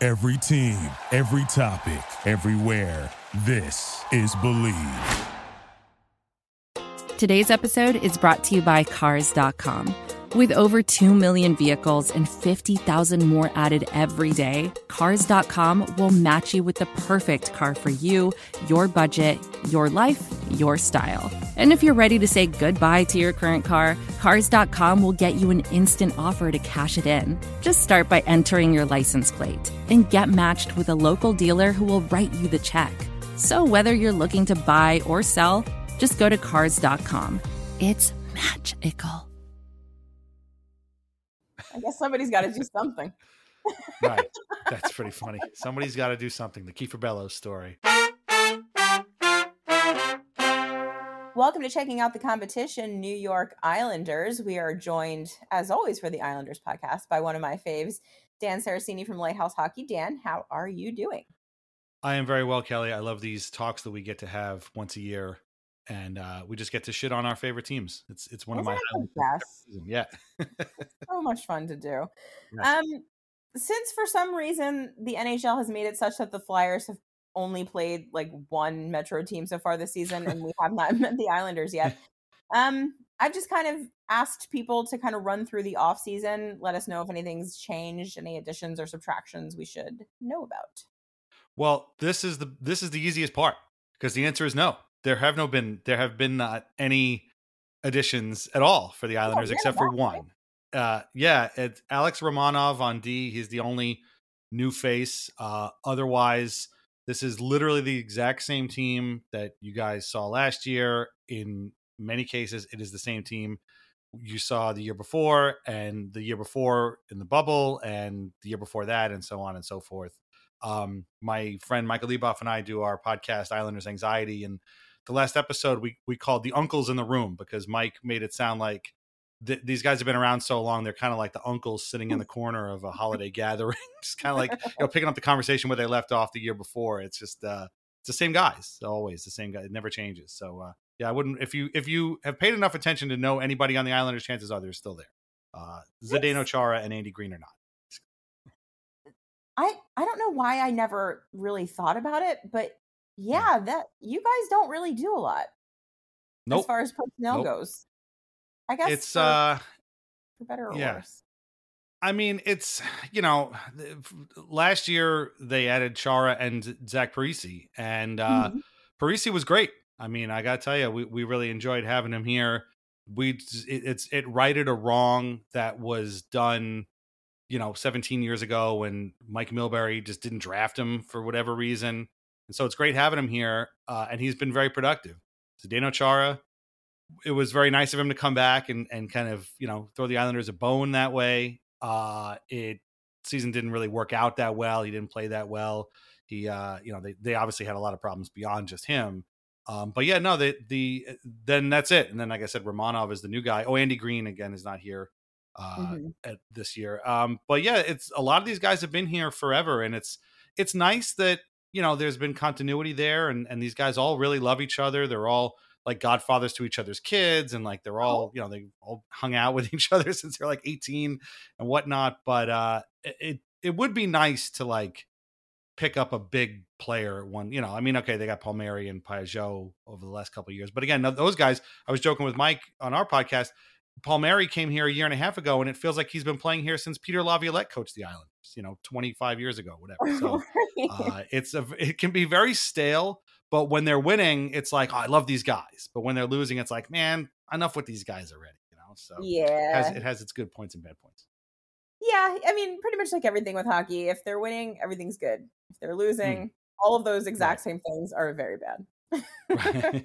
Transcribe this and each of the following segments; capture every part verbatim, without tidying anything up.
Every team, every topic, everywhere. This is Believe. Today's episode is brought to you by Cars dot com. With over two million vehicles and fifty thousand more added every day, Cars dot com will match you with the perfect car for you, your budget, your life, your style. And if you're ready to say goodbye to your current car, Cars dot com will get you an instant offer to cash it in. Just start by entering your license plate and get matched with a local dealer who will write you the check. So whether you're looking to buy or sell, just go to Cars dot com. It's magical. I guess somebody's got to do something. Right. That's pretty funny. Somebody's got to do something. The Kiefer Bellows story. Welcome to Checking Out the Competition, New York Islanders. We are joined, as always, for the Islanders podcast by one of my faves, Dan Saraceni from Lighthouse Hockey. Dan, how are you doing? I am very well, Kelly. I love these talks that we get to have once a year. And uh, we just get to shit on our favorite teams. It's it's one Isn't of my best. Yeah. So much fun to do. Yes. Um, since for some reason the N H L has made it such that the Flyers have only played like one Metro team so far this season, and we have not met the Islanders yet. Um, I've just kind of asked people to kind of run through the off season, let us know if anything's changed, any additions or subtractions we should know about. Well, this is the this is the easiest part because the answer is no. There have no been there have been not any additions at all for the Islanders yeah, except for one. Right. Uh, yeah, it's Alex Romanov on D. He's the only new face. Uh, otherwise, this is literally the exact same team that you guys saw last year. In many cases, it is the same team you saw the year before, and the year before in the bubble, and the year before that, and so on and so forth. Um, my friend Michael Leboff and I do our podcast Islanders Anxiety, and the last episode we we called the uncles in the room because Mike made it sound like th- these guys have been around so long. They're kind of like the uncles sitting in the corner of a holiday gathering, just kind of like, you know, picking up the conversation where they left off the year before. It's just, uh, it's the same guys, always the same guy. It never changes. So, uh, yeah, I wouldn't, if you, if you have paid enough attention to know anybody on the Islanders, chances are they're still there. Uh, Zdeno Chara and Andy Green are not. I, I don't know why I never really thought about it, but yeah, that you guys don't really do a lot nope. as far as personnel nope. goes. I guess it's for, uh for better or yeah. worse. I mean, it's, you know, last year they added Chara and Zach Parise, and uh, mm-hmm. Parise was great. I mean, I got to tell you, we, we really enjoyed having him here. We it, it's it righted a wrong that was done, you know, seventeen years ago when Mike Milbury just didn't draft him for whatever reason. And so it's great having him here, uh, and he's been very productive. Zdeno Chara, it was very nice of him to come back and, and kind of, you know, throw the Islanders a bone that way. Uh, it season didn't really work out that well. He didn't play that well. He, uh, you know, they, they obviously had a lot of problems beyond just him. Um, but yeah, no, the, the, then that's it. And then, like I said, Romanov is the new guy. Oh, Andy Green again is not here uh, mm-hmm. at this year. Um, but yeah, it's a lot of these guys have been here forever, and it's, it's nice that, you know, there's been continuity there, and, and these guys all really love each other. They're all like godfathers to each other's kids, and like they're all, you know, they all hung out with each other since they're like eighteen and whatnot. But uh, it it would be nice to like pick up a big player one, you know. I mean, okay, they got Palmieri and Pajot over the last couple of years, but again, those guys. I was joking with Mike on our podcast. Palmieri came here a year and a half ago, and it feels like he's been playing here since Peter Laviolette coached the Islanders, you know, twenty-five years ago, whatever. So uh, it's a, it can be very stale, but when they're winning, it's like, oh, I love these guys. But when they're losing, it's like, man, enough with these guys already, you know? So yeah, it has, it has its good points and bad points. Yeah. I mean, pretty much like everything with hockey, if they're winning, everything's good. If they're losing, mm. all of those exact right. same things are very bad. Right.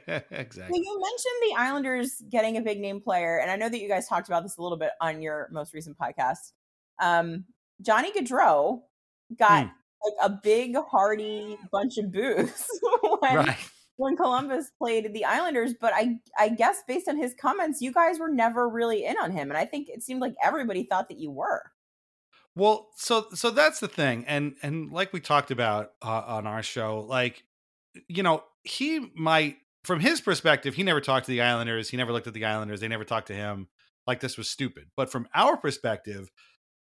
So Exactly. you mentioned the Islanders getting a big name player, and I know that you guys talked about this a little bit on your most recent podcast. Um, Johnny Gaudreau got mm. like a big, hearty bunch of boos when, right. when Columbus played the Islanders, but I, I guess based on his comments, you guys were never really in on him, and I think it seemed like everybody thought that you were. Well, so so that's the thing, and and like we talked about uh, on our show, like, you know, he might, from his perspective, he never talked to the Islanders. He never looked at the Islanders. They never talked to him. Like, this was stupid. But from our perspective,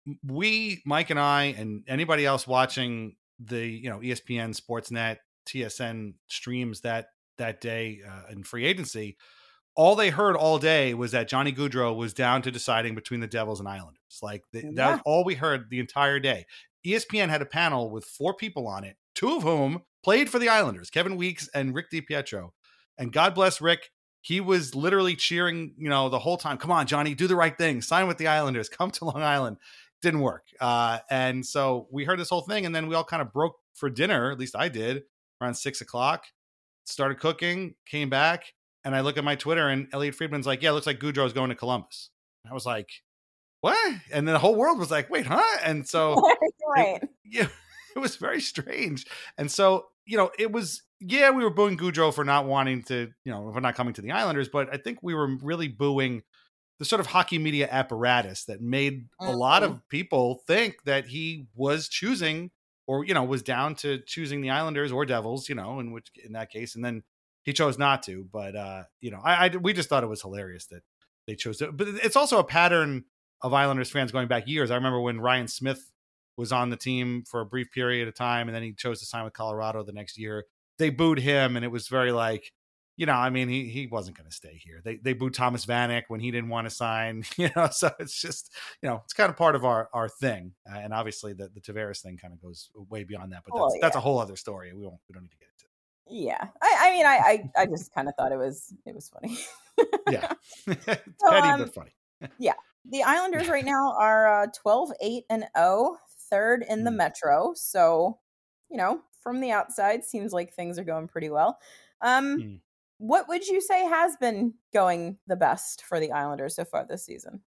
we, Mike and I, and anybody else watching the, you know, E S P N, Sportsnet, T S N streams that that day uh, in free agency, all they heard all day was that Johnny Gaudreau was down to deciding between the Devils and Islanders. Like the, yeah. that was all we heard the entire day. E S P N had a panel with four people on it, two of whom played for the Islanders, Kevin Weeks and Rick DiPietro. And God bless Rick. He was literally cheering, you know, the whole time. Come on, Johnny, do the right thing. Sign with the Islanders. Come to Long Island. Didn't work. Uh, and so we heard this whole thing, and then we all kind of broke for dinner. At least I did, around six o'clock. Started cooking, came back, and I look at my Twitter, and Elliot Friedman's like, yeah, it looks like Gaudreau's going to Columbus. And I was like, what? And then the whole world was like, wait, huh? And so right. it, yeah, it was very strange. And so, you know, it was, yeah, we were booing Gaudreau for not wanting to, you know, for not coming to the Islanders, but I think we were really booing the sort of hockey media apparatus that made mm-hmm. a lot of people think that he was choosing, or, you know, was down to choosing the Islanders or Devils, you know, in which, in that case, and then he chose not to. But, uh, you know, I, I, we just thought it was hilarious that they chose to, but it's also a pattern of Islanders fans going back years. I remember when Ryan Smith was on the team for a brief period of time, and then he chose to sign with Colorado the next year. They booed him, and it was very like, you know, I mean, he he wasn't going to stay here. They they booed Thomas Vanek when he didn't want to sign, you know, so it's just, you know, it's kind of part of our, our thing. Uh, and obviously the, the Tavares thing kind of goes way beyond that, but that's, oh, yeah. that's a whole other story. We won't, we don't need to get into. Yeah. I, I mean, I, I, I just kind of thought it was, it was funny. Yeah. so, petty, um, but funny. Yeah. The Islanders right now are uh, twelve, eight and oh, third in the mm. Metro. So, you know, from the outside, seems like things are going pretty well. Um, mm. What would you say has been going the best for the Islanders so far this season?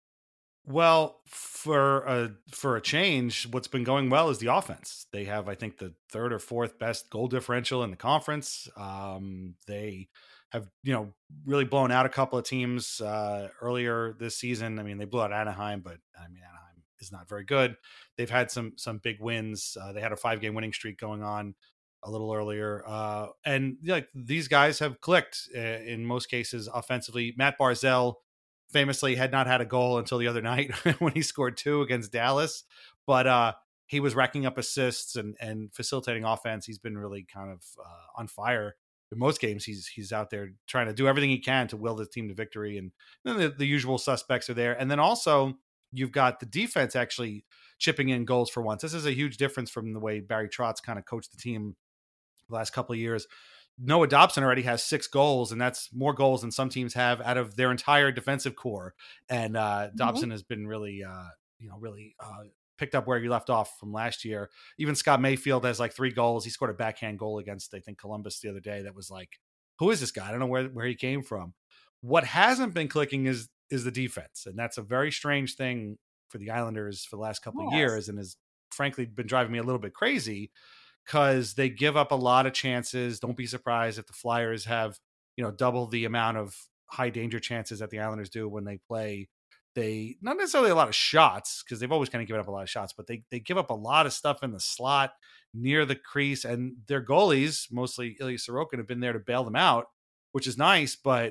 Well, for a, for a change, what's been going well is the offense. They have, I think, the third or fourth best goal differential in the conference. Um, they have, you know, really blown out a couple of teams uh, earlier this season. I mean, they blew out Anaheim, but I mean, Anaheim is not very good. They've had some some big wins. Uh, they had a five game winning streak going on a little earlier. Uh, and like these guys have clicked uh, in most cases offensively. Matt Barzal famously had not had a goal until the other night when he scored two against Dallas, but uh, he was racking up assists and, and facilitating offense. He's been really kind of uh, on fire in most games. He's, he's out there trying to do everything he can to will the team to victory. And then the, the usual suspects are there. And then also you've got the defense actually chipping in goals for once. This is a huge difference from the way Barry Trotz kind of coached the team the last couple of years. Noah Dobson already has six goals, and that's more goals than some teams have out of their entire defensive core. And uh, Dobson mm-hmm. has been really, uh, you know, really uh, picked up where he left off from last year. Even Scott Mayfield has like three goals. He scored a backhand goal against, I think, Columbus the other day. That was like, who is this guy? I don't know where, where he came from. What hasn't been clicking is is the defense, and that's a very strange thing for the Islanders for the last couple yes. of years, and has frankly been driving me a little bit crazy. Because they give up a lot of chances. Don't be surprised if the Flyers have, you know, double the amount of high danger chances that the Islanders do when they play. They not necessarily a lot of shots, because they've always kind of given up a lot of shots, but they they give up a lot of stuff in the slot near the crease, and their goalies, mostly Ilya Sorokin, have been there to bail them out, which is nice. But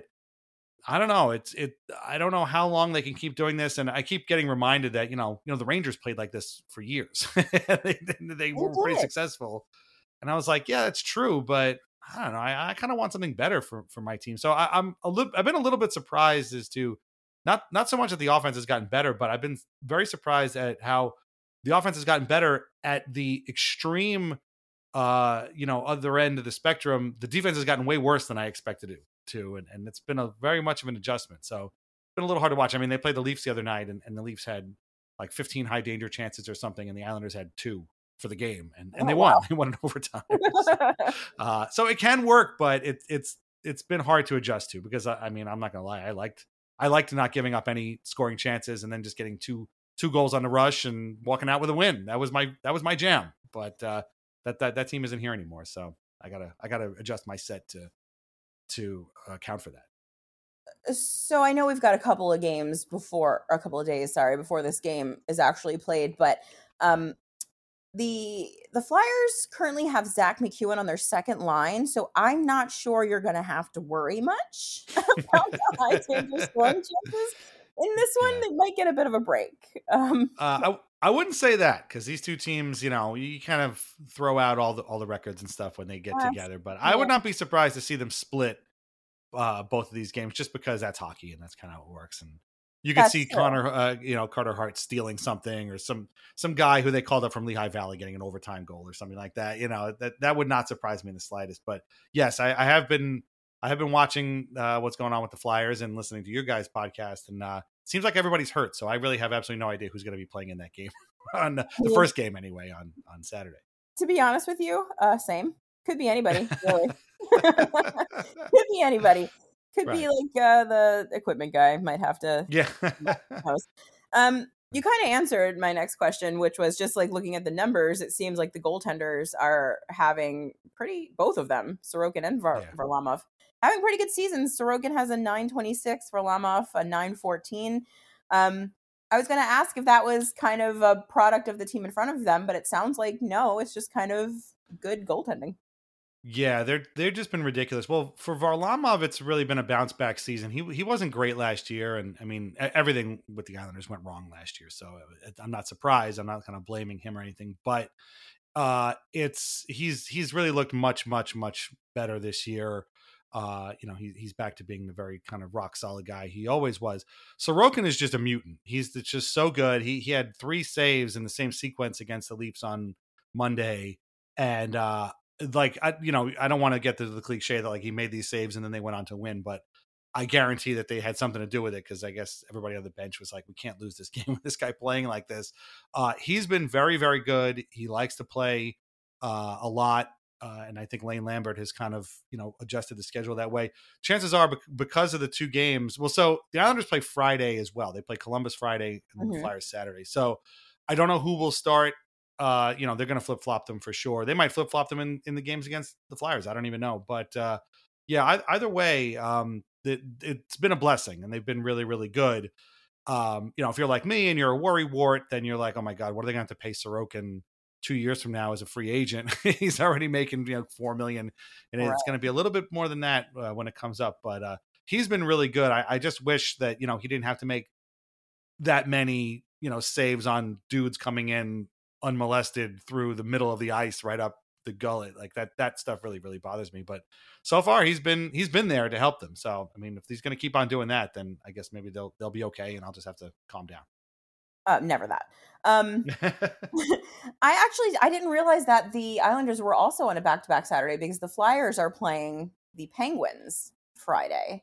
I don't know. It's it. I don't know how long they can keep doing this, and I keep getting reminded that you know, you know, the Rangers played like this for years. they they were pretty successful, and I was like, yeah, that's true, but I don't know. I, I kind of want something better for, for my team. So I, I'm a little. I've been a little bit surprised as to not not so much that the offense has gotten better, but I've been very surprised at how the offense has gotten better at the extreme, uh, you know, other end of the spectrum. The defense has gotten way worse than I expected it to, and, and it's been a very much of an adjustment. So it's been a little hard to watch. I mean, they played the Leafs the other night, and, and the Leafs had like fifteen high danger chances or something, and the Islanders had two for the game, and, and oh, they won. Wow. They won in overtime. so, uh, so it can work, but it, it's it's been hard to adjust to, because I, I mean, I'm not gonna lie, I liked I liked not giving up any scoring chances, and then just getting two two goals on the rush and walking out with a win. That was my that was my jam. But uh, that that that team isn't here anymore, so I gotta I gotta adjust my set to. to account for that. So I know we've got a couple of games before, or a couple of days, sorry, before this game is actually played, but um, the the Flyers currently have Zach McEwen on their second line, so I'm not sure you're going to have to worry much about the high danger scoring chances. In this one, yeah. they might get a bit of a break. Um, uh, I wouldn't say that because these two teams, you know, you kind of throw out all the all the records and stuff when they get Uh, together. But I yeah, would not be surprised to see them split uh, both of these games just because that's hockey and that's kind of how it works. And you could see that's true. Connor, uh, you know, Carter Hart stealing something or some some guy who they called up from Lehigh Valley getting an overtime goal or something like that. You know, that that would not surprise me in the slightest. But yes, I, I have been I have been watching uh, what's going on with the Flyers and listening to your guys' podcast, and uh, it seems like everybody's hurt. So I really have absolutely no idea who's going to be playing in that game on the, the first game anyway on on Saturday. To be honest with you, uh, same. Could be anybody, really. Could be anybody. Could Right. be like uh, the equipment guy. Might have to. Yeah. um, you kind of answered my next question, which was just like looking at the numbers. It seems like the goaltenders are having pretty, both of them, Sorokin and Var- Yeah. Varlamov, having pretty good seasons. Sorokin has a nine twenty-six, Varlamov a nine fourteen. Um, I was going to ask if that was kind of a product of the team in front of them, but it sounds like no, it's just kind of good goaltending. Yeah, they're they've just been ridiculous. Well, for Varlamov, it's really been a bounce back season. He he wasn't great last year, and I mean e- everything with the Islanders went wrong last year. So it, I'm not surprised. I'm not kind of blaming him or anything, but uh, it's he's he's really looked much much much better this year. Uh, you know, he, he's back to being the very kind of rock solid guy he always was. Sorokin is just a mutant. He's just so good. He he had three saves in the same sequence against the Leafs on Monday, and uh, like I, you know, I don't want to get to the cliche that like he made these saves and then they went on to win, but I guarantee that they had something to do with it because I guess everybody on the bench was like, we can't lose this game with this guy playing like this. Uh, he's been very, very good. He likes to play uh, a lot. Uh, and I think Lane Lambert has kind of, you know, adjusted the schedule that way. Chances are because of the two games. Well, so the Islanders play Friday as well. They play Columbus Friday and then Mhm. the Flyers Saturday. So I don't know who will start. Uh, you know, they're going to flip flop them for sure. They might flip flop them in, in the games against the Flyers. I don't even know. But uh, yeah, I, either way, um, it, it's been a blessing and they've been really, really good. Um, you know, if you're like me and you're a worry wart, then you're like, oh my God, what are they going to have to pay Sorokin two years from now as a free agent? He's already making, you know, four million and Right. it's going to be a little bit more than that uh, when it comes up. But uh, he's been really good. I, I just wish that, you know, he didn't have to make that many, you know, saves on dudes coming in unmolested through the middle of the ice right up the gullet. Like that that stuff really really bothers me, but so far he's been he's been there to help them. So I mean, if he's going to keep on doing that, then I guess maybe they'll they'll be okay and I'll just have to calm down. Uh, never that. Um, I actually I didn't realize that the Islanders were also on a back-to-back Saturday because the Flyers are playing the Penguins Friday.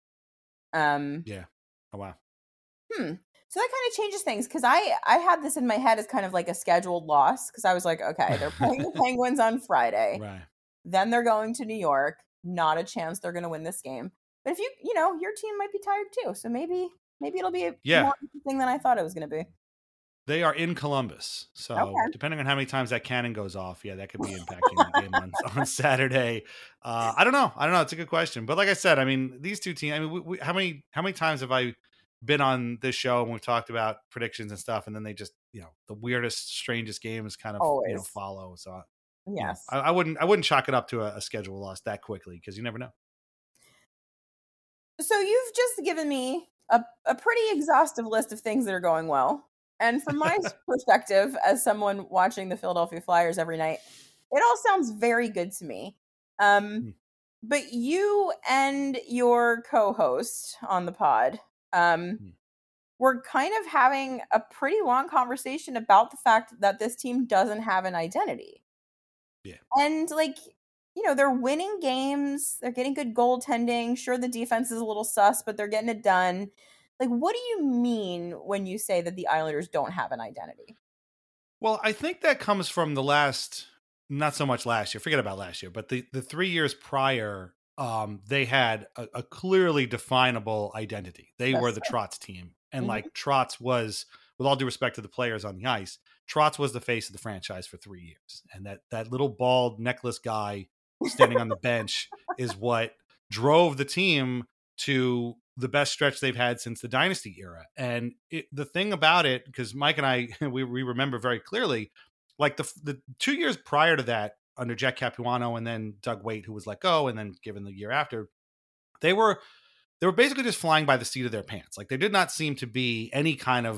Um, Yeah. Oh wow. Hmm. So that kind of changes things because I I had this in my head as kind of like a scheduled loss because I was like, okay, they're playing the Penguins on Friday, Right. then they're going to New York. Not a chance they're going to win this game. But if you you know your team might be tired too, so maybe maybe it'll be a Yeah. more interesting than I thought it was going to be. They are in Columbus. So Okay. depending on how many times that cannon goes off, yeah, that could be impacting the game on, on Saturday. Uh, I don't know. I don't know. It's a good question. But like I said, I mean, these two teams, I mean, we, we, how many, how many times have I been on this show and we've talked about predictions and stuff, and then they just, you know, the weirdest, strangest games kind of, you know, Always. follow. So you know, Yes. I, I wouldn't, I wouldn't chalk it up to a, a schedule loss that quickly because you never know. So you've just given me a, a pretty exhaustive list of things that are going well. And from my perspective, as someone watching the Philadelphia Flyers every night, it all sounds very good to me. Um, Hmm. but you and your co-host on the pod um, Hmm. were kind of having a pretty long conversation about the fact that this team doesn't have an identity. Yeah. And like, you know, they're winning games. They're getting good goaltending. Sure, the defense is a little sus, but they're getting it done. Like, what do you mean when you say that the Islanders don't have an identity? Well, I think that comes from the last, not so much last year, forget about last year, but the, the three years prior, um, they had a, a clearly definable identity. They That's were the true. Trotz team. And Mhm. like Trotz was, with all due respect to the players on the ice, Trotz was the face of the franchise for three years. And that, that little bald necklace guy standing on the bench is what drove the team to the best stretch they've had since the dynasty era. And it, the thing about it, because Mike and I, we, we remember very clearly, like the the two years prior to that, under Jack Capuano and then Doug Waite, who was let go, and then given the year after, they were they were basically just flying by the seat of their pants. Like there did not seem to be any kind of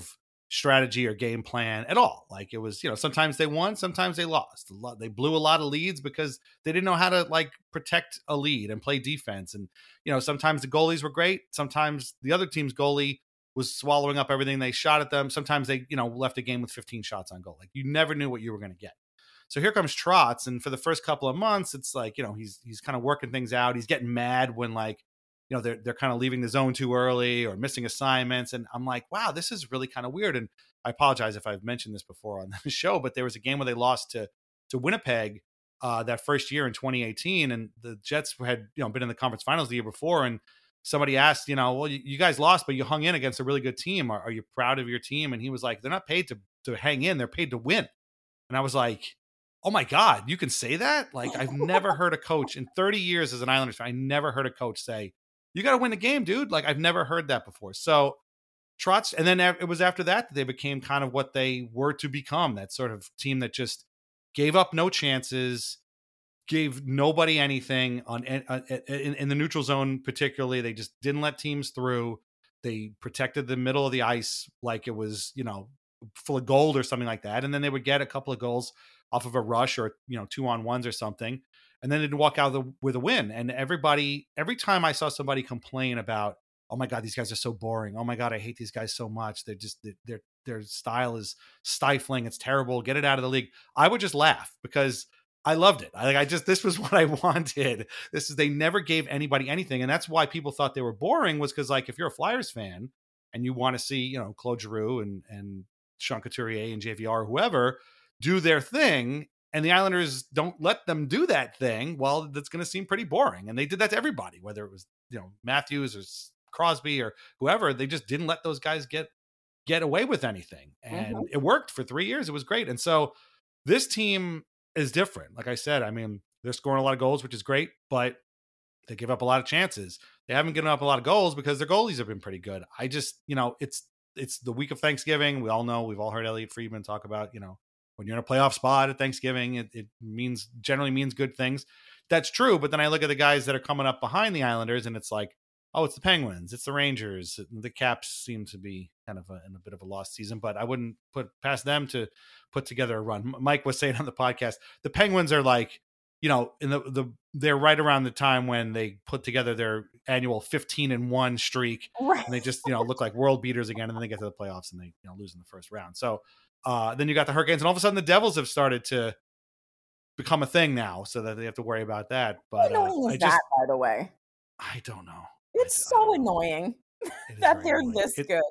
strategy or game plan at all. Like it was, you know, sometimes they won, sometimes they lost. A lot, they blew a lot of leads because they didn't know how to like protect a lead and play defense. And, you know, sometimes the goalies were great. Sometimes the other team's goalie was swallowing up everything they shot at them. Sometimes they, you know, left a game with fifteen shots on goal. Like you never knew what you were going to get. So here comes Trotz. And for the first couple of months, it's like, you know, he's, he's kind of working things out. He's getting mad when like, you know, they're, they're kind of leaving the zone too early or missing assignments. And I'm like, wow, this is really kind of weird. And I apologize if I've mentioned this before on the show, but there was a game where they lost to, to Winnipeg uh, that first year in twenty eighteen. And the Jets had, you know, been in the conference finals the year before. And somebody asked, you know, well, you, you guys lost, but you hung in against a really good team. Are, are you proud of your team? And he was like, they're not paid to, to hang in. They're paid to win. And I was like, oh my God, you can say that? Like, I've never heard a coach in thirty years as an Islanders fan, I never heard a coach say, you got to win the game, dude. Like, I've never heard that before. So Trotz, and then it was after that that they became kind of what they were to become, that sort of team that just gave up no chances, gave nobody anything on in, in the neutral zone. Particularly, they just didn't let teams through. They protected the middle of the ice like it was, you know, full of gold or something like that. And then they would get a couple of goals off of a rush or, you know, two on ones or something. And then they'd walk out the, with a win. And everybody, every time I saw somebody complain about, oh my God, these guys are so boring. Oh my God, I hate these guys so much. They're just, their their style is stifling. It's terrible. Get it out of the league. I would just laugh because I loved it. I like, I just, this was what I wanted. This is, they never gave anybody anything. And that's why people thought they were boring, was because like, if you're a Flyers fan and you want to see, you know, Claude Giroux and, and Sean Couturier and J V R, whoever, do their thing, and the Islanders don't let them do that thing, well, that's going to seem pretty boring. And they did that to everybody, whether it was, you know, Matthews or Crosby or whoever. They just didn't let those guys get get away with anything. And mm-hmm. it worked for three years. It was great. And so this team is different. Like I said, I mean, they're scoring a lot of goals, which is great, but they give up a lot of chances. They haven't given up a lot of goals because their goalies have been pretty good. I just, you know, it's it's the week of Thanksgiving. We all know, we've all heard Elliot Friedman talk about, you know, when you're in a playoff spot at Thanksgiving, it, it means generally means good things. That's true. But then I look at the guys that are coming up behind the Islanders, and it's like, oh, it's the Penguins, it's the Rangers. The Caps seem to be kind of a, in a bit of a lost season, but I wouldn't put past them to put together a run. Mike was saying on the podcast, the Penguins are like, you know, in the the they're right around the time when they put together their annual fifteen and one streak, right. And they just, you know, look like world beaters again, and then they get to the playoffs and they, you know, lose in the first round. So. Uh, then you got the Hurricanes, and all of a sudden the Devils have started to become a thing now, so that they have to worry about that. But how annoying uh, is I that, just, by the way? I don't know. It's I, so I annoying that they're annoying. this it, good.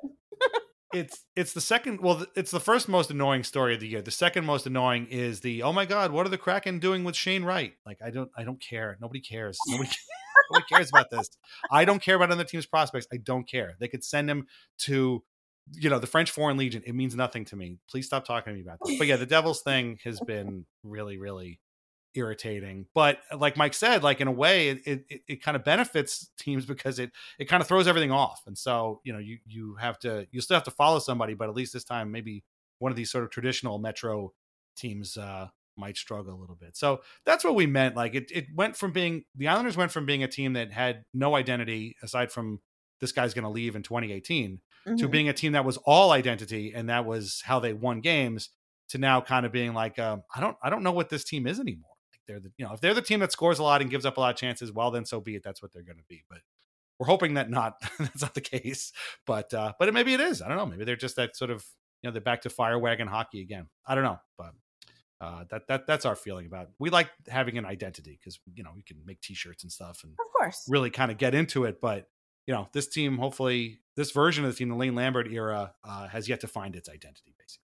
it's it's the second. Well, it's the first most annoying story of the year. The second most annoying is the, oh my God, what are the Kraken doing with Shane Wright? Like, I don't, I don't care. Nobody cares. Nobody. Nobody cares about this. I don't care about other teams' prospects. I don't care. They could send him to, you know, the French Foreign Legion. It means nothing to me. Please stop talking to me about this. But yeah, the Devils thing has been really, really irritating. But like Mike said, like in a way, it it, it kind of benefits teams because it it kind of throws everything off. And so, you know, you you have to, you still have to follow somebody, but at least this time, maybe one of these sort of traditional Metro teams uh, might struggle a little bit. So that's what we meant. Like it it went from being, the Islanders went from being a team that had no identity aside from this guy's going to leave in twenty eighteen. Mm-hmm. To being a team that was all identity, and that was how they won games, to now kind of being like, um, I don't, I don't know what this team is anymore. Like they're the, you know, if they're the team that scores a lot and gives up a lot of chances, well, then so be it. That's what they're going to be. But we're hoping that not, that's not the case. But, uh, but it, maybe it is. I don't know. Maybe they're just that sort of, you know, they're back to fire wagon hockey again. I don't know, but uh, that that that's our feeling about it. We like having an identity because, you know, we can make T-shirts and stuff, and of course, really kind of get into it, but. You know, this team, hopefully, this version of the team, the Lane Lambert era, uh, has yet to find its identity, basically.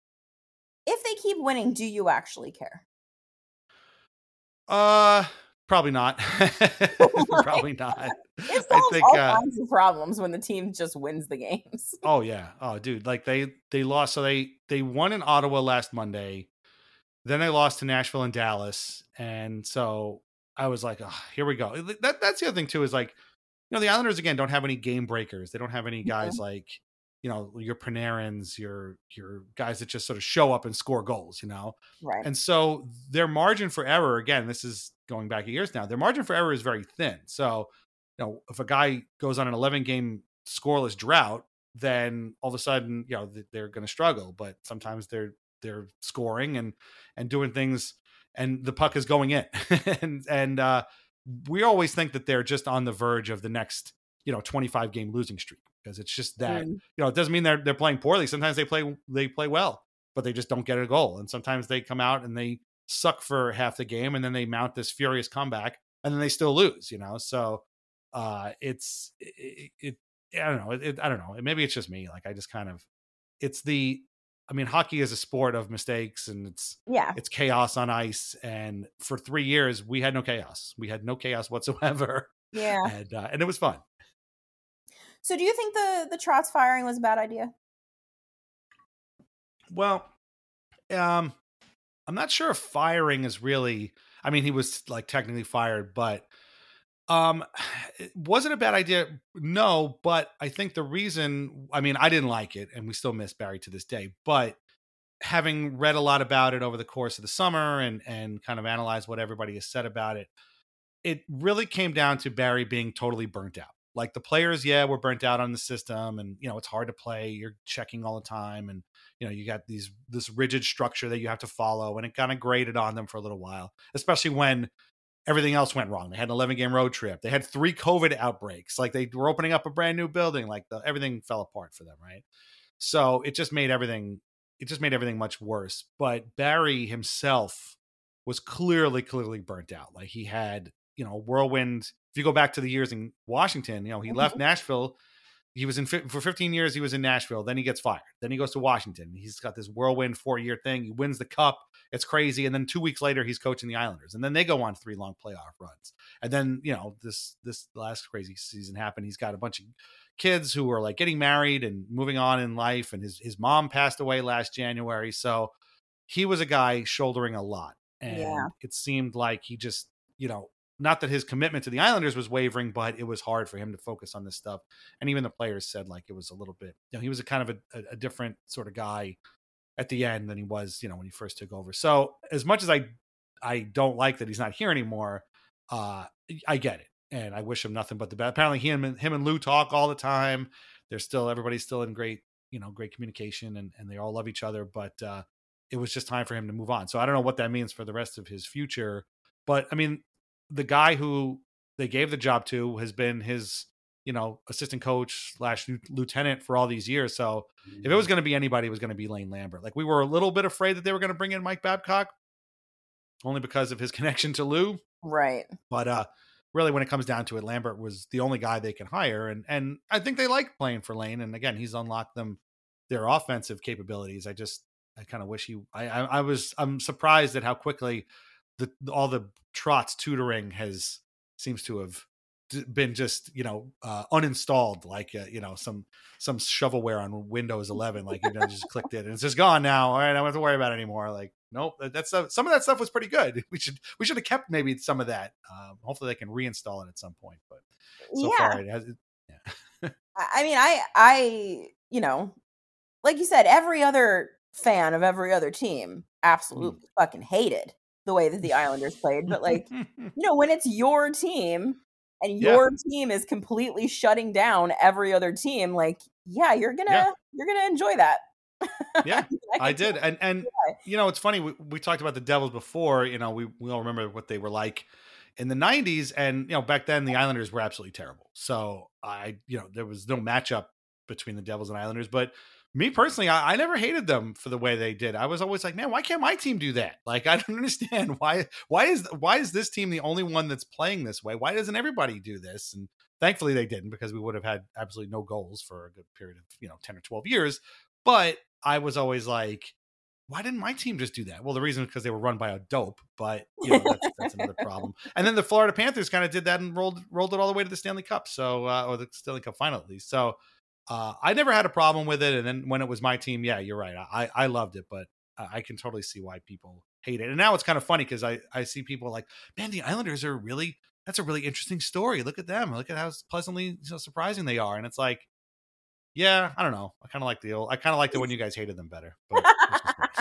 If they keep winning, do you actually care? Uh, probably not. Probably not. It solves I think, all uh, kinds of problems when the team just wins the games. Oh yeah. Oh, dude. Like they they lost. So they they won in Ottawa last Monday. Then they lost to Nashville and Dallas, and so I was like, oh, here we go. That that's the other thing too, is like. You know, the Islanders, again, don't have any game breakers. They don't have any guys mm-hmm. like, you know, your Panarins, your your guys that just sort of show up and score goals, you know? Right. And so their margin for error, again, this is going back years now, their margin for error is very thin. So, you know, if a guy goes on an eleven-game scoreless drought, then all of a sudden, you know, they're going to struggle. But sometimes they're they're scoring and and doing things, and the puck is going in, and and uh, we always think that they're just on the verge of the next, you know, twenty-five game losing streak, because it's just that, mm. you know, it doesn't mean they're they're playing poorly. Sometimes they play they play well, but they just don't get a goal, and sometimes they come out and they suck for half the game, and then they mount this furious comeback, and then they still lose, you know. So uh, it's it, it I don't know. It, it, I don't know. Maybe it's just me. Like, I just kind of, it's the, I mean, hockey is a sport of mistakes, and it's, yeah, it's chaos on ice. And for three years, we had no chaos. We had no chaos whatsoever. Yeah. And, uh, and it was fun. So do you think the, the Trotz firing was a bad idea? Well, um, I'm not sure if firing is really, I mean, he was like technically fired, but Um, was it a bad idea? No, but I think the reason, I mean, I didn't like it, and we still miss Barry to this day, but having read a lot about it over the course of the summer and, and kind of analyzed what everybody has said about it, it really came down to Barry being totally burnt out. Like, the players, yeah, were burnt out on the system, and, you know, it's hard to play. You're checking all the time, and, you know, you got these, this rigid structure that you have to follow, and it kind of grated on them for a little while, especially when everything else went wrong. They had an eleven game road trip. They had three COVID outbreaks. Like, they were opening up a brand new building. Like, the, everything fell apart for them. Right. So it just made everything, it just made everything much worse. But Barry himself was clearly, clearly burnt out. Like, he had, you know, whirlwind. If you go back to the years in Washington, you know, he mm-hmm. left Nashville. He was in for fifteen years. He was in Nashville. Then he gets fired. Then he goes to Washington. He's got this whirlwind four year thing. He wins the cup. It's crazy. And then two weeks later, he's coaching the Islanders. And then they go on three long playoff runs. And then, you know, this, this last crazy season happened. He's got a bunch of kids who are like getting married and moving on in life. And his, his mom passed away last January. So he was a guy shouldering a lot. And yeah. it seemed like he just, you know, not that his commitment to the Islanders was wavering, but it was hard for him to focus on this stuff. And even the players said, like, it was a little bit, you know, he was a kind of a, a different sort of guy at the end than he was, you know, when he first took over. So as much as I, I don't like that he's not here anymore, uh, I get it. And I wish him nothing but the best. Apparently he and him and Lou talk all the time. They're still, everybody's still in great, you know, great communication, and, and they all love each other, but uh, it was just time for him to move on. So I don't know what that means for the rest of his future, but I mean, the guy who they gave the job to has been his, you know, assistant coach slash lieutenant for all these years. So if it was going to be anybody, it was going to be Lane Lambert. Like, we were a little bit afraid that they were going to bring in Mike Babcock only because of his connection to Lou. Right. But uh, really, when it comes down to it, Lambert was the only guy they can hire. And, and I think they like playing for Lane. And again, he's unlocked them, their offensive capabilities. I just, I kind of wish he, I, I, I was, I'm surprised at how quickly the, all the Trotz tutoring has, seems to have been just, you know, uh, uninstalled, like, uh, you know, some, some shovelware on Windows eleven, like, you know, just clicked it and it's just gone now. All right. I don't have to worry about it anymore. Like, nope. That's uh, some of that stuff was pretty good. We should, we should have kept maybe some of that. Um, hopefully they can reinstall it at some point, but so yeah. far it has, yeah. I mean, I, I, you know, like you said, every other fan of every other team absolutely mm. fucking hated the way that the Islanders played. But, like, you know, when it's your team and your yeah. team is completely shutting down every other team, like, yeah, you're gonna yeah. you're gonna enjoy that. Yeah, I, I did. And and you know, it's funny, we, we talked about the Devils before. You know, we, we all remember what they were like in the nineties, and, you know, back then the Islanders were absolutely terrible. So I, you know, there was no matchup between the Devils and Islanders, but me personally, I, I never hated them for the way they did. I was always like, man, why can't my team do that? Like, I don't understand why, why is, why is this team the only one that's playing this way? Why doesn't everybody do this? And thankfully they didn't, because we would have had absolutely no goals for a good period of, you know, ten or twelve years. But I was always like, why didn't my team just do that? Well, the reason is because they were run by a dope, but, you know, that's, that's another problem. And then the Florida Panthers kind of did that and rolled, rolled it all the way to the Stanley Cup. So, uh, or the Stanley Cup final at least. So, Uh, I never had a problem with it. And then when it was my team, yeah, you're right. I, I loved it, but I can totally see why people hate it. And now it's kind of funny because I, I see people like, man, the Islanders are really, that's a really interesting story. Look at them. Look at how pleasantly, you know, surprising they are. And it's like, yeah, I don't know. I kind of like the old, I kind of liked it when you guys hated them better. But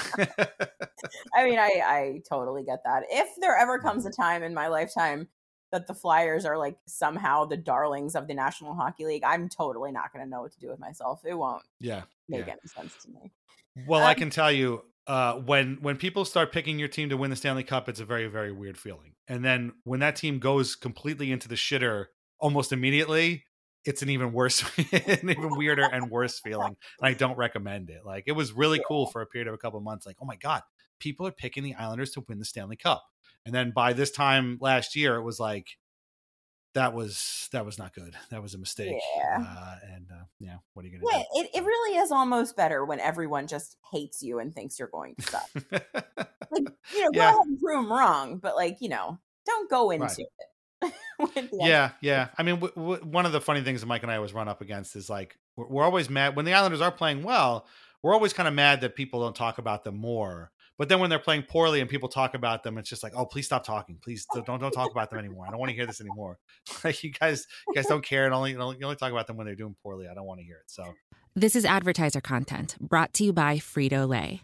I mean, I, I totally get that. If there ever comes a time in my lifetime that the Flyers are like somehow the darlings of the National Hockey League, I'm totally not going to know what to do with myself. It won't yeah, make yeah. any sense to me. Well, um, I can tell you, uh, when when people start picking your team to win the Stanley Cup, it's a very, very weird feeling. And then when that team goes completely into the shitter almost immediately, it's an even worse, an even weirder and worse feeling. And I don't recommend it. Like, it was really cool for a period of a couple of months. Like, oh my God, people are picking the Islanders to win the Stanley Cup. And then by this time last year, it was like, that was, that was not good. That was a mistake. Yeah. Uh, and uh, yeah, what are you going to Yeah, do? it, it really is almost better when everyone just hates you and thinks you're going to suck. Like, you know, go Yeah. ahead and prove them wrong, but like, you know, don't go into Right. it. with the Yeah, yeah. I mean, w- w- one of the funny things that Mike and I always run up against is like, we're, we're always mad when the Islanders are playing well. We're always kind of mad that people don't talk about them more. But then when they're playing poorly and people talk about them, it's just like, oh, please stop talking. Please don't don't talk about them anymore. I don't want to hear this anymore. Like, you guys, you guys don't care, and only you only talk about them when they're doing poorly. I don't want to hear it. So This is advertiser content brought to you by Frito-Lay.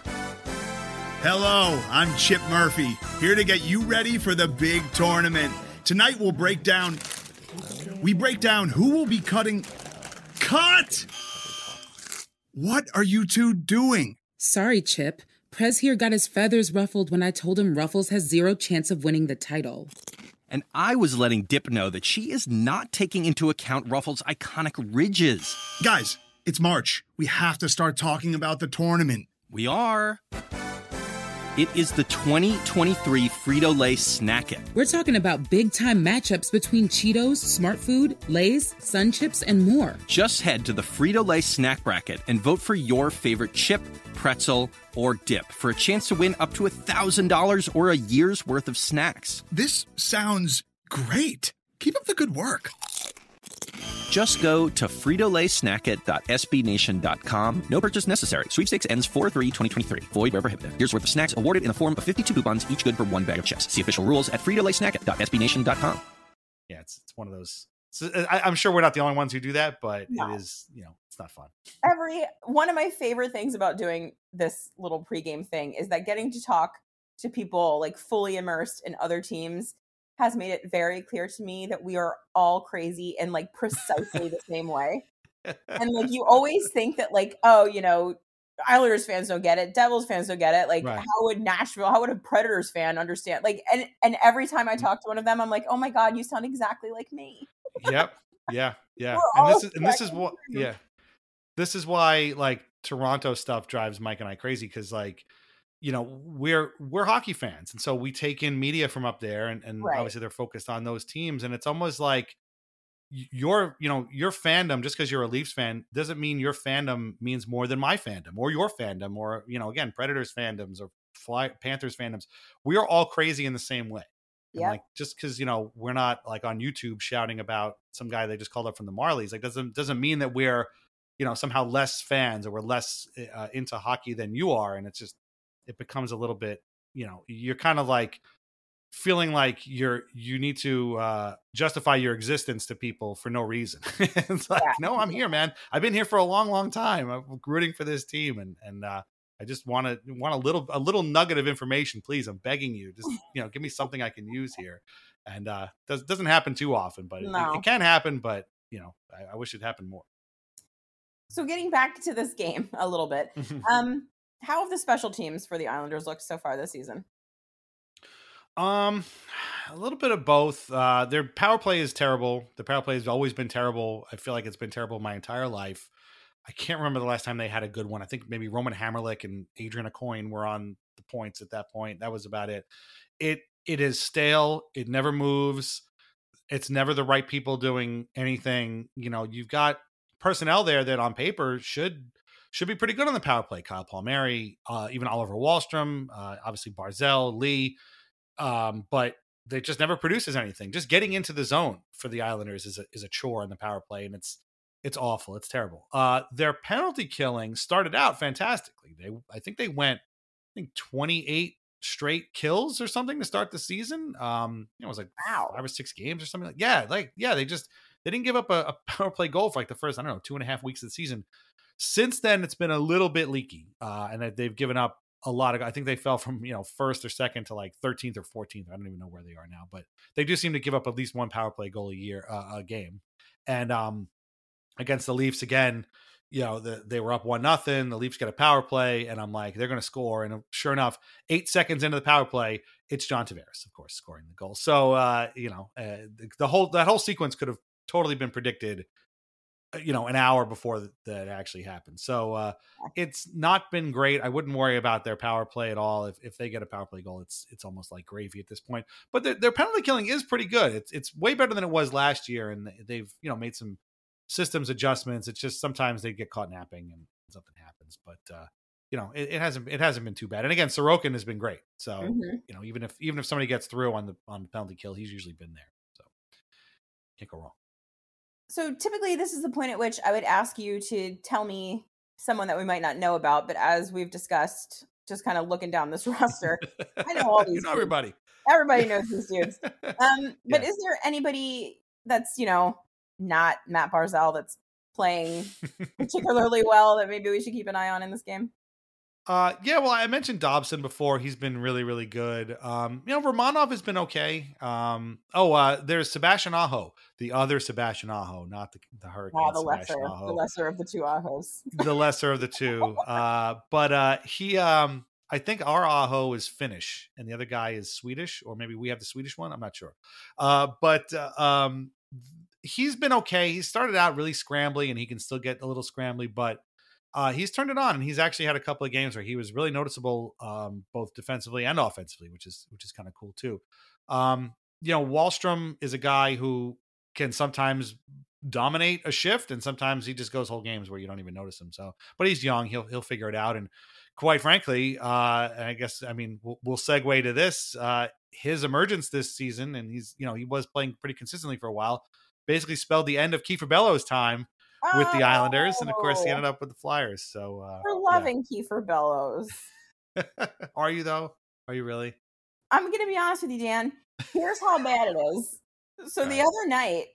Hello, I'm Chip Murphy, here to get you ready for the big tournament. Tonight we'll break down, we break down who will be cutting, cut! What are you two doing? Sorry, Chip. Prez here got his feathers ruffled when I told him Ruffles has zero chance of winning the title. And I was letting Dip know that she is not taking into account Ruffles' iconic ridges. Guys, it's March. We have to start talking about the tournament. We are. It is the twenty twenty-three Frito-Lay Snack It. We're talking about big-time matchups between Cheetos, Smart Food, Lay's, Sun Chips, and more. Just head to the Frito-Lay Snack Bracket and vote for your favorite chip, pretzel, or dip for a chance to win up to one thousand dollars or a year's worth of snacks. This sounds great. Keep up the good work. Just go to frito lay snack it dot s b nation dot com. No purchase necessary. Sweepstakes ends four three twenty twenty-three. Void where prohibited. Here's worth of snacks awarded in the form of fifty-two coupons, each good for one bag of chips. See official rules at frito lay snack it dot s b nation dot com. yeah, it's it's one of those. So I, I'm sure we're not the only ones who do that, but No. it is, you know, it's not fun. Every one of my favorite things about doing this little pregame thing is that getting to talk to people like fully immersed in other teams has made it very clear to me that we are all crazy in like precisely the same way. And like, you always think that like, oh, you know, Islanders fans don't get it, Devils fans don't get it. Like, Right. how would Nashville, how would a Predators fan understand? Like, and and every time I talk to one of them, I'm like, oh my God, you sound exactly like me. Yep. Yeah. Yeah. We're And this all is and this is connected what through. yeah. This is why like Toronto stuff drives Mike and I crazy, because like, you know, we're we're hockey fans, and so we take in media from up there, and, and Right. obviously they're focused on those teams, and it's almost like y- your you know your fandom, just because you're a Leafs fan doesn't mean your fandom means more than my fandom or your fandom, or you know, again, Predators fandoms or Fly Panthers fandoms. We are all crazy in the same way. And Yep. like, just because, you know, we're not like on YouTube shouting about some guy they just called up from the Marlies, like doesn't doesn't mean that we're, you know, somehow less fans or we're less uh, into hockey than you are. And it's just, it becomes a little bit, you know, you're kind of like feeling like you're, you need to uh, justify your existence to people for no reason. It's like, Yeah. no, I'm here, man. I've been here for a long, long time. I'm rooting for this team. And, and, uh, I just want to want a little, a little nugget of information, please. I'm begging you, just, you know, give me something I can use here. And, uh, does, doesn't happen too often, but it, No. it can happen, but you know, I, I wish it happened more. So getting back to this game a little bit, um, how have the special teams for the Islanders looked so far this season? Um, a little bit of both. Uh, their power play is terrible. The power play has always been terrible. I feel like it's been terrible my entire life. I can't remember the last time they had a good one. I think maybe Roman Hammerlick and Adrian Aucoin were on the points at that point. That was about it. It it is stale. It never moves. It's never the right people doing anything. You know, you've got personnel there that on paper should should be pretty good on the power play. Kyle Palmieri, uh, even Oliver Wahlstrom, uh, obviously Barzell, Lee. Um, but they just never produces anything. Just getting into the zone for the Islanders is a, is a chore in the power play, and it's it's awful. It's terrible. Uh, their penalty killing started out fantastically. They I think they went I think twenty-eight straight kills or something to start the season. Um, you know, it was like Wow. five or six games or something like yeah, like yeah. They just they didn't give up a, a power play goal for like the first I don't know two and a half weeks of the season. Since then, it's been a little bit leaky, uh, and they've given up a lot of, I think they fell from, you know, first or second to like thirteenth or fourteenth. I don't even know where they are now, but they do seem to give up at least one power play goal a year, uh, a game. And um, against the Leafs again, you know, the, they were up one nothing. The Leafs get a power play, and I'm like, they're going to score. And sure enough, eight seconds into the power play, it's John Tavares, of course, scoring the goal. So, uh, you know, uh, the, the whole that whole sequence could have totally been predicted, you know, an hour before that, that actually happened. So uh, it's not been great. I wouldn't worry about their power play at all. If if they get a power play goal, it's it's almost like gravy at this point. But their, their penalty killing is pretty good. It's it's way better than it was last year, and they've, you know, made some systems adjustments. It's just sometimes they get caught napping and something happens. But uh, you know, it, it hasn't it hasn't been too bad. And again, Sorokin has been great. So mm-hmm. you know, even if even if somebody gets through on the on the penalty kill, he's usually been there. So can't go wrong. So typically this is the point at which I would ask you to tell me someone that we might not know about, but as we've discussed, just kind of looking down this roster, I know all these you know dudes. everybody. Everybody knows these dudes. Um, but yeah. is there anybody that's, you know, not Matt Barzal that's playing particularly well that maybe we should keep an eye on in this game? Uh, yeah, well, I mentioned Dobson before. He's been really, really good. Um, you know, Romanov has been okay. Um, oh, uh, there's Sebastian Aho, the other Sebastian Aho, not the, the Hurricane. Wow, the Sebastian lesser, Aho. the lesser of the two Ahos. The lesser of the two. Uh, but uh, he, um, I think our Aho is Finnish and the other guy is Swedish, or maybe we have the Swedish one. I'm not sure. Uh, but uh, um, he's been okay. He started out really scrambly, and he can still get a little scrambly, but Uh, he's turned it on, and he's actually had a couple of games where he was really noticeable, um, both defensively and offensively, which is which is kind of cool too. Um, you know, Wahlstrom is a guy who can sometimes dominate a shift, and sometimes he just goes whole games where you don't even notice him. So, but he's young; he'll he'll figure it out. And quite frankly, uh, I guess I mean we'll, we'll segue to this. Uh, his emergence this season, and he's you know he was playing pretty consistently for a while, basically spelled the end of Kiefer Bellows' time with the Islanders, and of course he ended up with the Flyers. So uh, we're loving yeah. Kiefer Bellows. Are you though? Are you really? I'm gonna be honest with you, Dan. Here's how bad it is. So all the right. other night,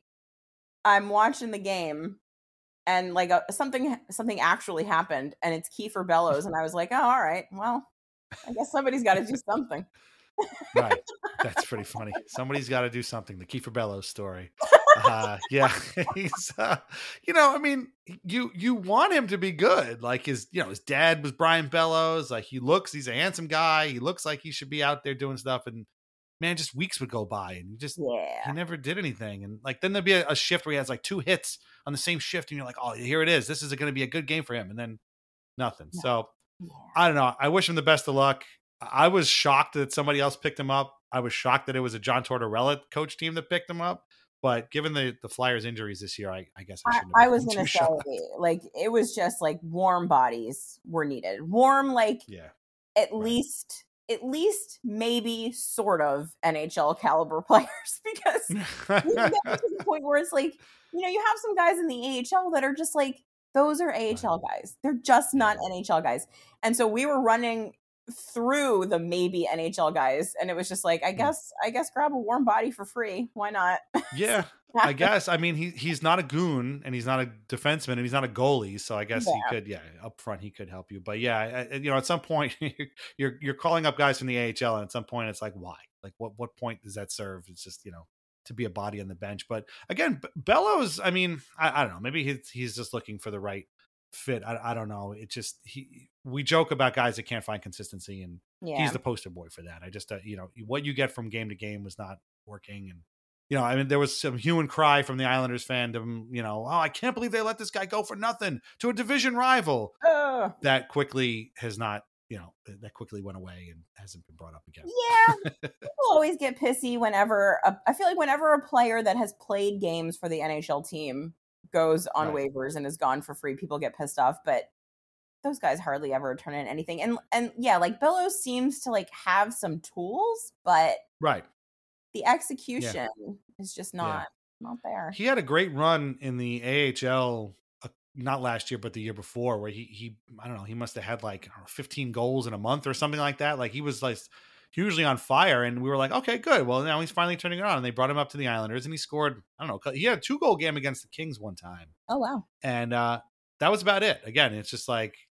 I'm watching the game, and like a, something something actually happened, and it's Kiefer Bellows, and I was like, oh, all right, well, I guess somebody's got to do something. Right, that's pretty funny. Somebody's got to do something. The Kiefer Bellows story. Uh, yeah, he's, uh, you know, I mean, you, you want him to be good. Like his, you know, his dad was Brian Bellows. Like he looks, he's a handsome guy. He looks like he should be out there doing stuff. And man, just weeks would go by and he just, yeah. he never did anything. And like, then there'd be a, a shift where he has like two hits on the same shift. And you're like, oh, here it is. This is going to be a good game for him. And then nothing. Yeah. So yeah. I don't know. I wish him the best of luck. I was shocked that somebody else picked him up. I was shocked that it was a John Tortorella coach team that picked him up. But given the, the Flyers injuries this year, I, I guess I shouldn't have I, I was going to say, shocked. like, it was just like warm bodies were needed. Warm, like, yeah, at right. least, at least maybe sort of N H L caliber players, because you get to the point where it's like, you know, you have some guys in the A H L that are just like, those are A H L guys. They're just not N H L guys. And so we were running through the maybe N H L guys, and it was just like, I guess I guess grab a warm body for free. Why not? Yeah, I guess. I mean, he he's not a goon, and he's not a defenseman, and he's not a goalie, so I guess yeah. he could, yeah, up front he could help you. But yeah, I, you know, at some point you're you're calling up guys from the A H L, and at some point it's like, why? Like, what what point does that serve? It's just, you know, to be a body on the bench. But again, Bellows, I mean, I, I don't know, maybe he's he's just looking for the right fit. I, I don't know. It just, he, we joke about guys that can't find consistency, and yeah. he's the poster boy for that. I just, uh, you know, what you get from game to game was not working. And, you know, I mean, there was some hue and cry from the Islanders fandom, you know, oh, I can't believe they let this guy go for nothing to a division rival. Uh, that quickly has not, you know, that quickly went away and hasn't been brought up again. Yeah. People always get pissy whenever, a, I feel like whenever a player that has played games for the N H L team goes on right. waivers and is gone for free, people get pissed off, but those guys hardly ever turn in anything. And and yeah, like Bellows seems to like have some tools, but right, the execution yeah. is just not yeah. not there. He had a great run in the A H L, uh, not last year, but the year before, where he he I don't know, he must have had like I don't know, fifteen goals in a month or something like that. Like he was like hugely on fire, and we were like, okay, good. Well, now he's finally turning it on. And they brought him up to the Islanders, and he scored, I don't know, he had a two goal game against the Kings one time. Oh, wow. And uh, that was about it. Again, it's just like,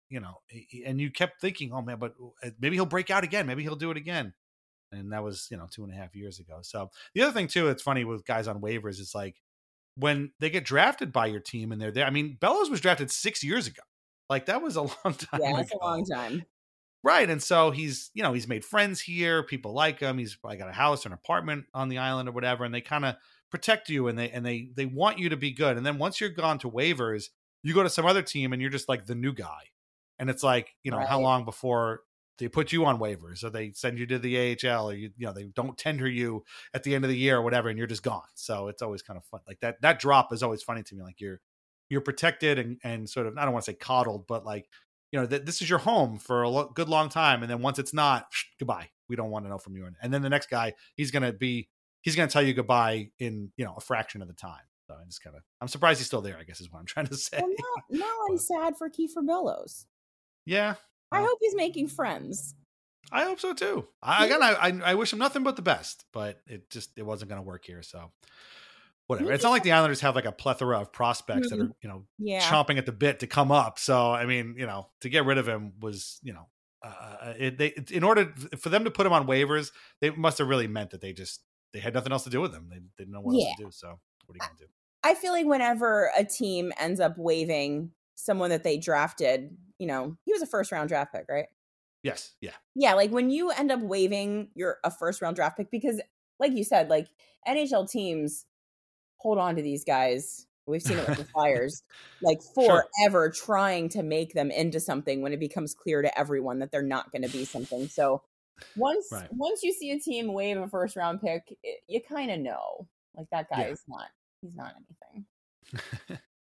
you know, and you kept thinking, oh man, but maybe he'll break out again. Maybe he'll do it again. And that was, you know, two and a half years ago. So the other thing too, it's funny with guys on waivers, it's like when they get drafted by your team and they're there. I mean, Bellows was drafted six years ago. Like that was a long time Yeah, ago. that's a long time. Right. And so he's, you know, he's made friends here. People like him. He's probably got a house or an apartment on the island or whatever. And they kind of protect you and they, and they, they want you to be good. And then once you're gone to waivers, you go to some other team and you're just like the new guy. And it's like, you know, Right. how long before they put you on waivers or they send you to the A H L or you, you know, they don't tender you at the end of the year or whatever. And you're just gone. So it's always kind of fun. Like that, that drop is always funny to me. Like you're, you're protected and, and sort of, I don't want to say coddled, but like, you know, that this is your home for a lo- good long time. And then once it's not, goodbye. We don't want to know from you. And then the next guy, he's going to be, he's going to tell you goodbye in, you know, a fraction of the time. So I just kind of, I'm surprised he's still there, I guess is what I'm trying to say. Well, now, now I'm sad for Kiefer Bellows. Yeah. I hope he's making friends. I hope so too. I, again, I, I I wish him nothing but the best, but it just, it wasn't going to work here. So whatever. It's not like the Islanders have like a plethora of prospects mm-hmm. that are, you know, yeah. chomping at the bit to come up. So, I mean, you know, to get rid of him was, you know, uh, it, they, in order for them to put him on waivers, they must have really meant that they just, they had nothing else to do with him. They, they didn't know what yeah. else to do. So what are you going to do? I feel like whenever a team ends up waiving someone that they drafted, you know, he was a first round draft pick, right? Yes. Yeah. Yeah. Like when you end up waiving your a first round draft pick, because like you said, like N H L teams hold on to these guys. We've seen it with the Flyers, like forever, sure. trying to make them into something when it becomes clear to everyone that they're not going to be something. So once right. once you see a team waive a first round pick, it, you kind of know, like that guy yeah. is not, he's not anything. right.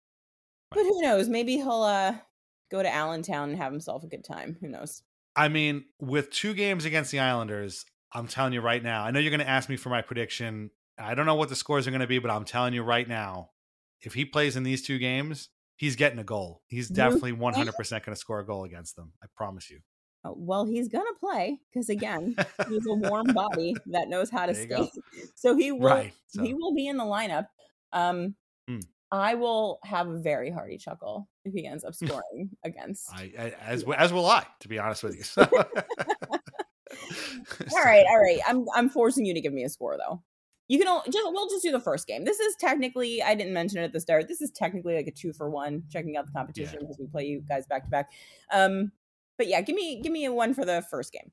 But who knows? Maybe he'll uh, go to Allentown and have himself a good time. Who knows? I mean, with two games against the Islanders, I'm telling you right now, I know you're going to ask me for my prediction. I don't know what the scores are going to be, but I'm telling you right now, if he plays in these two games, he's getting a goal. He's definitely one hundred percent going to score a goal against them. I promise you. Oh, well, he's going to play because, again, he's a warm body that knows how to skate. So he will right, so. he will be in the lineup. Um, hmm. I will have a very hearty chuckle if he ends up scoring against. I, I, as as will I, to be honest with you. So. all right, all right. I'm I'm forcing you to give me a score though. You can just we'll just do the first game. This is technically, I didn't mention it at the start. This is technically like a two for one, checking out the competition yeah. because we play you guys back to back. Um, but yeah, give me give me a one for the first game.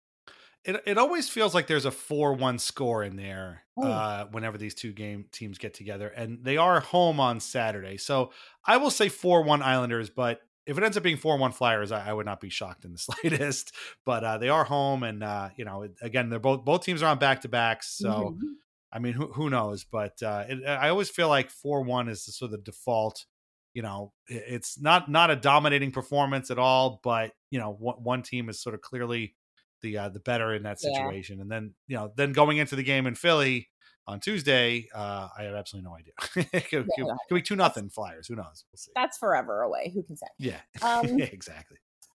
It it always feels like there's a four one score in there oh. uh, whenever these two game teams get together, and they are home on Saturday. So I will say four one Islanders, but if it ends up being four one Flyers, I, I would not be shocked in the slightest. But uh, they are home, and uh, you know, again, they're both both teams are on back to backs. So mm-hmm. I mean, who who knows? But uh, it, I always feel like four one is the, sort of the default. You know, it's not not a dominating performance at all, but you know, one, one team is sort of clearly the uh, the better in that situation. Yeah. And then, you know, then going into the game in Philly on Tuesday, uh, I have absolutely no idea. it could, yeah, could, could be two nothing Flyers. Who knows? We'll see. That's forever away. Who can say? Yeah, um, exactly.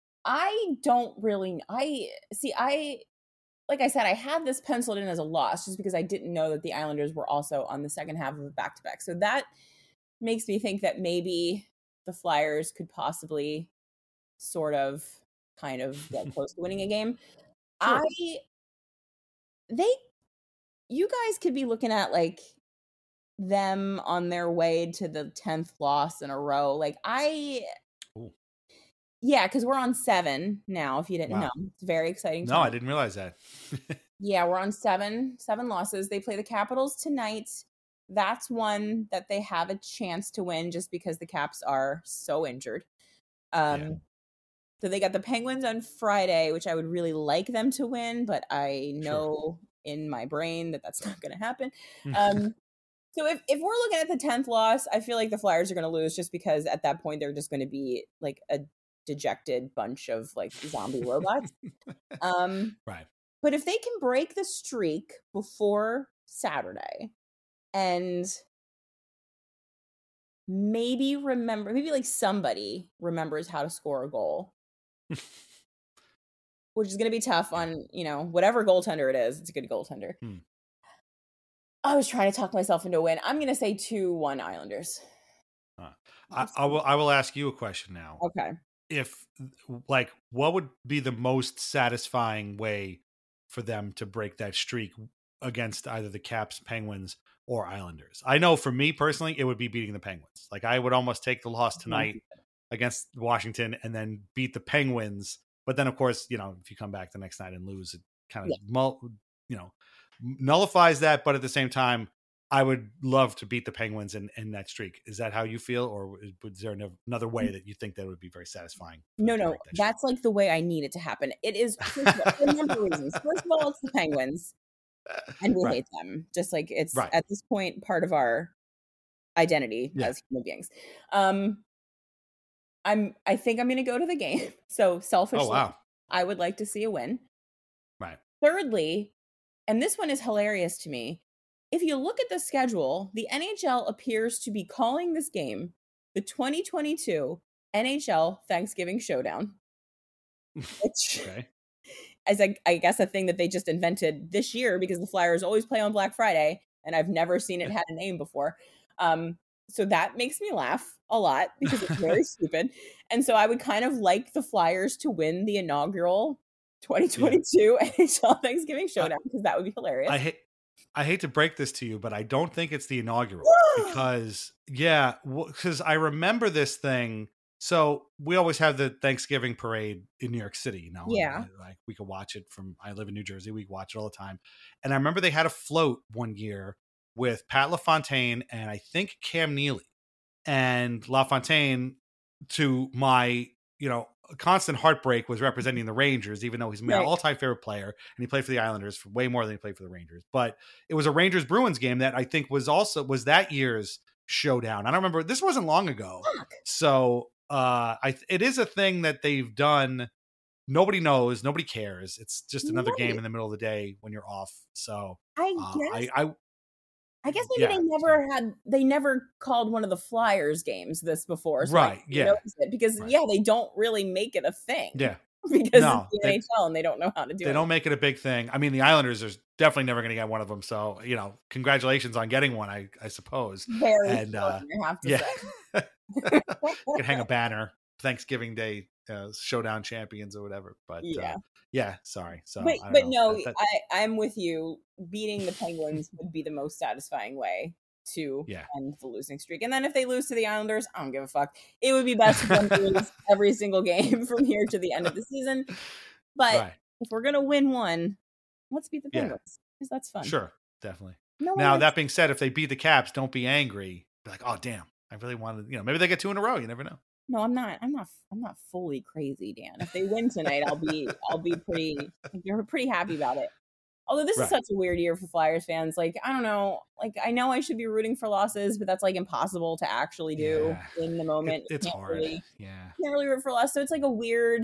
I don't really. I see. I like I said, I had this penciled in as a loss just because I didn't know that the Islanders were also on the second half of a back to back. So that makes me think that maybe the Flyers could possibly sort of kind of get close to winning a game. Sure. I, they, you guys could be looking at like them on their way to the tenth loss in a row. Like I, Ooh. yeah, because we're on seven now. If you didn't wow. know, it's very exciting. No, time. I didn't realize that. yeah, we're on seven, seven losses. They play the Capitals tonight. That's one that they have a chance to win just because the Caps are so injured. Um, yeah. So they got the Penguins on Friday, which I would really like them to win, but I know sure. in my brain that that's not going to happen. Um, so if, if we're looking at the tenth loss, I feel like the Flyers are going to lose just because at that point they're just going to be like a dejected bunch of like zombie robots. Um, right. But if they can break the streak before Saturday and maybe remember, maybe like somebody remembers how to score a goal, which is going to be tough on, you know, whatever goaltender it is. It's a good goaltender. Hmm. I was trying to talk myself into a win. I'm going to say two one Islanders. Uh, I, I will I will ask you a question now. Okay. if like what would be the most satisfying way for them to break that streak against either the Caps, Penguins, or Islanders. I know for me personally, it would be beating the Penguins. Like I would almost take the loss tonight against Washington and then beat the Penguins. But then of course, you know, if you come back the next night and lose, it kind of, yeah. you know, nullifies that. But at the same time, I would love to beat the Penguins in, in that streak. Is that how you feel? Or is there another way that you think that would be very satisfying? No, no, that that's like the way I need it to happen. It is for a number of reasons. First of all, it's the Penguins. And we right. hate them. Just like it's right. at this point part of our identity yeah. as human beings. Um, I'm. I think I'm going to go to the game. So selfishly, oh, wow. I would like to see a win. Right. Thirdly, and this one is hilarious to me. If you look at the schedule, the N H L appears to be calling this game the twenty twenty-two N H L Thanksgiving Showdown. Which okay. is, a, I guess, a thing that they just invented this year because the Flyers always play on Black Friday, and I've never seen it had a name before. Um, so that makes me laugh a lot because it's very stupid. And so I would kind of like the Flyers to win the inaugural twenty twenty-two yeah. N H L Thanksgiving Showdown because that would be hilarious. I hate. I hate to break this to you, but I don't think it's the inaugural because, yeah, because I remember this thing. So we always have the Thanksgiving parade in New York City. You know, yeah, and, like we could watch it from. I live in New Jersey. We watch it all the time, and I remember they had a float one year with Pat LaFontaine and I think Cam Neely, and LaFontaine, to my you know. constant heartbreak, was representing the Rangers, even though he's my right. all-time favorite player, and he played for the Islanders for way more than he played for the Rangers. But it was a Rangers Bruins game that I think was also was that year's showdown. I don't remember. This wasn't long ago, Fuck. so uh, I it is a thing that they've done. Nobody knows, nobody cares. It's just another right. game in the middle of the day when you're off. So I uh, guess I. I I guess maybe yeah. they never had, they never called one of the Flyers games this before. So right. Yeah. It because, right. yeah, they don't really make it a thing. Yeah. Because no, it's the they, N H L and they don't know how to do they it. They don't make it a big thing. I mean, the Islanders are definitely never going to get one of them. So, you know, congratulations on getting one, I, I suppose. Very and, uh, I have to yeah. say. You can hang a banner, Thanksgiving Day uh, Showdown champions or whatever. But yeah. Uh, Yeah, sorry. So, but I but know. no, that, that, I I'm with you. Beating the Penguins would be the most satisfying way to yeah. end the losing streak. And then if they lose to the Islanders, I don't give a fuck. It would be best for them to lose every single game from here to the end of the season. But right. if we're gonna win one, let's beat the Penguins because yeah. that's fun. Sure, definitely. No now that being said, if they beat the Caps, don't be angry. Be like, oh damn, I really wanted. You know, maybe they get two in a row. You never know. No, I'm not. I'm not. I'm not fully crazy, Dan. If they win tonight, I'll be. I'll be pretty. You're pretty happy about it. Although this right. is such a weird year for Flyers fans. Like I don't know. Like I know I should be rooting for losses, but that's like impossible to actually do yeah. in the moment. It, it's hard. Really, yeah. Can't really root for loss. So it's like a weird.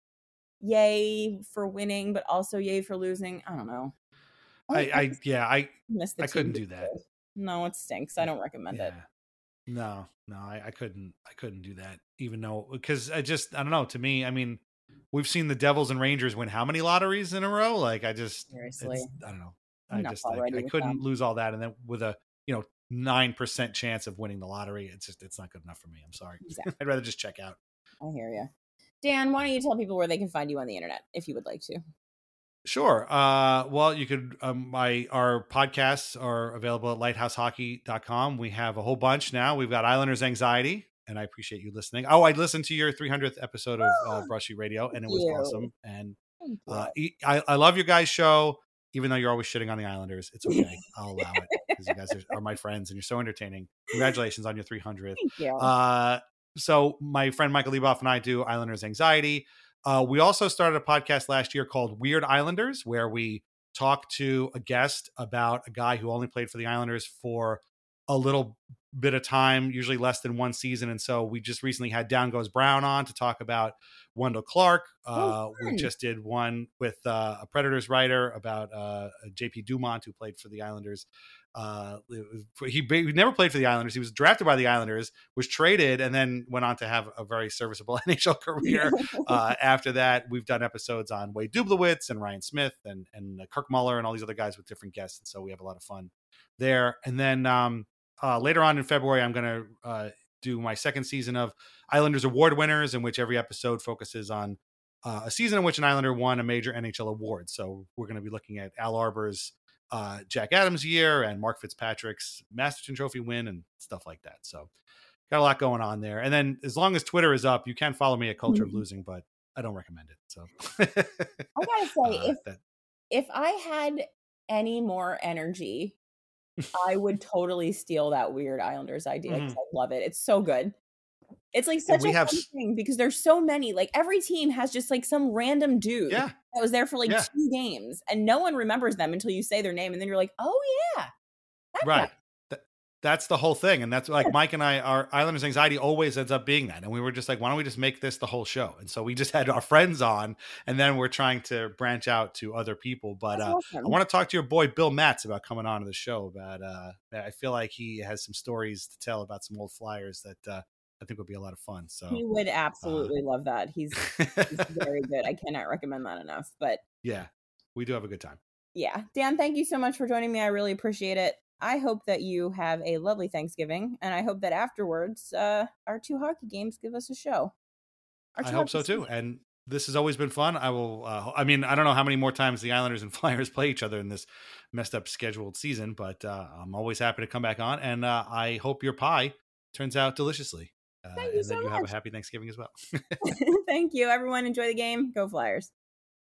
Yay for winning, but also yay for losing. I don't know. I. I, I yeah. I. Missed the I couldn't do that. No, it stinks. I don't recommend yeah. it. No, no, I, I couldn't. I couldn't do that. Even though, because I just, I don't know. To me, I mean, we've seen the Devils and Rangers win how many lotteries in a row? Like, I just, seriously, I don't know. I'm I just, like, I couldn't them. lose all that, and then with a, you know, nine percent chance of winning the lottery, it's just, it's not good enough for me. I'm sorry. Exactly. I'd rather just check out. I hear you, Dan. Why don't you tell people where they can find you on the internet if you would like to? Sure. Uh, well, you could, um, my, our podcasts are available at lighthouse hockey dot com. We have a whole bunch now. We've got Islanders Anxiety, and I appreciate you listening. Oh, I listened to your three hundredth episode of uh, Brushy Radio, and it was you. awesome. And uh, I, I love your guys' show, even though you're always shitting on the Islanders. It's okay. I'll allow it because you guys are, are my friends and you're so entertaining. Congratulations on your three hundredth. Thank you. Uh, so my friend Michael Leboff and I do Islanders Anxiety. Uh, we also started a podcast last year called Weird Islanders, where we talk to a guest about a guy who only played for the Islanders for a little bit of time, usually less than one season. And so we just recently had Down Goes Brown on to talk about Wendell Clark. Uh, oh, we just did one with uh, a Predators writer about uh, J P Dumont, who played for the Islanders. Uh, he, he never played for the Islanders. He was drafted by the Islanders, was traded, and then went on to have a very serviceable N H L career. uh, after that, we've done episodes on Wade Dublowitz and Ryan Smith and, and Kirk Muller and all these other guys with different guests. And so we have a lot of fun there. And then um, uh, later on in February, I'm going to uh, do my second season of Islanders Award Winners, in which every episode focuses on uh, a season in which an Islander won a major N H L award. So we're going to be looking at Al Arbor's uh, Jack Adams year and Mark Fitzpatrick's Masterton Trophy win and stuff like that. So got a lot going on there. And then as long as Twitter is up, you can follow me at Culture of Losing, but I don't recommend it. So I gotta say, uh, if that, if I had any more energy, I would totally steal that weird Islanders idea because mm-hmm. I love it. It's so good. It's like such we a have fun thing because there's so many. Like every team has just like some random dude yeah. that was there for like yeah. two games, and no one remembers them until you say their name, and then you're like, oh yeah, that right. guy. Th- that's the whole thing, and that's like Mike and I. Our Islanders anxiety always ends up being that, and we were just like, why don't we just make this the whole show? And so we just had our friends on, and then we're trying to branch out to other people. But uh, awesome. I want to talk to your boy Bill Matz about coming on to the show. About uh, I feel like he has some stories to tell about some old Flyers that. Uh, I think would be a lot of fun. So he would absolutely uh, love that. He's, he's very good. I cannot recommend that enough. But yeah, we do have a good time. Yeah, Dan, thank you so much for joining me. I really appreciate it. I hope that you have a lovely Thanksgiving, and I hope that afterwards, uh, our two hockey games give us a show. I hope so too. And this has always been fun. I will. Uh, I mean, I don't know how many more times the Islanders and Flyers play each other in this messed up scheduled season, but uh, I'm always happy to come back on. And uh, I hope your pie turns out deliciously. Uh, Thank you and so that you much. have a happy Thanksgiving as well. Thank you. Everyone enjoy the game. Go Flyers.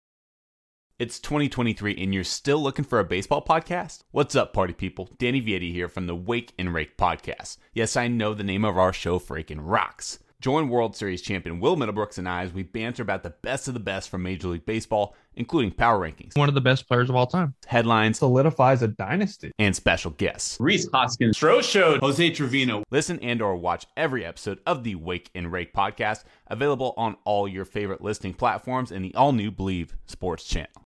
It's twenty twenty-three and you're still looking for a baseball podcast? What's up, party people? Danny Vietti here from the Wake and Rake podcast. Yes, I know the name of our show freaking rocks. Join World Series champion Will Middlebrooks and I as we banter about the best of the best from Major League Baseball, including power rankings, one of the best players of all time, headlines, solidifies a dynasty, and special guests. Rhys Hoskins, Stroh Showed, Jose Trevino. Listen and or watch every episode of the Wake and Rake podcast, available on all your favorite listening platforms and the all-new Believe Sports channel.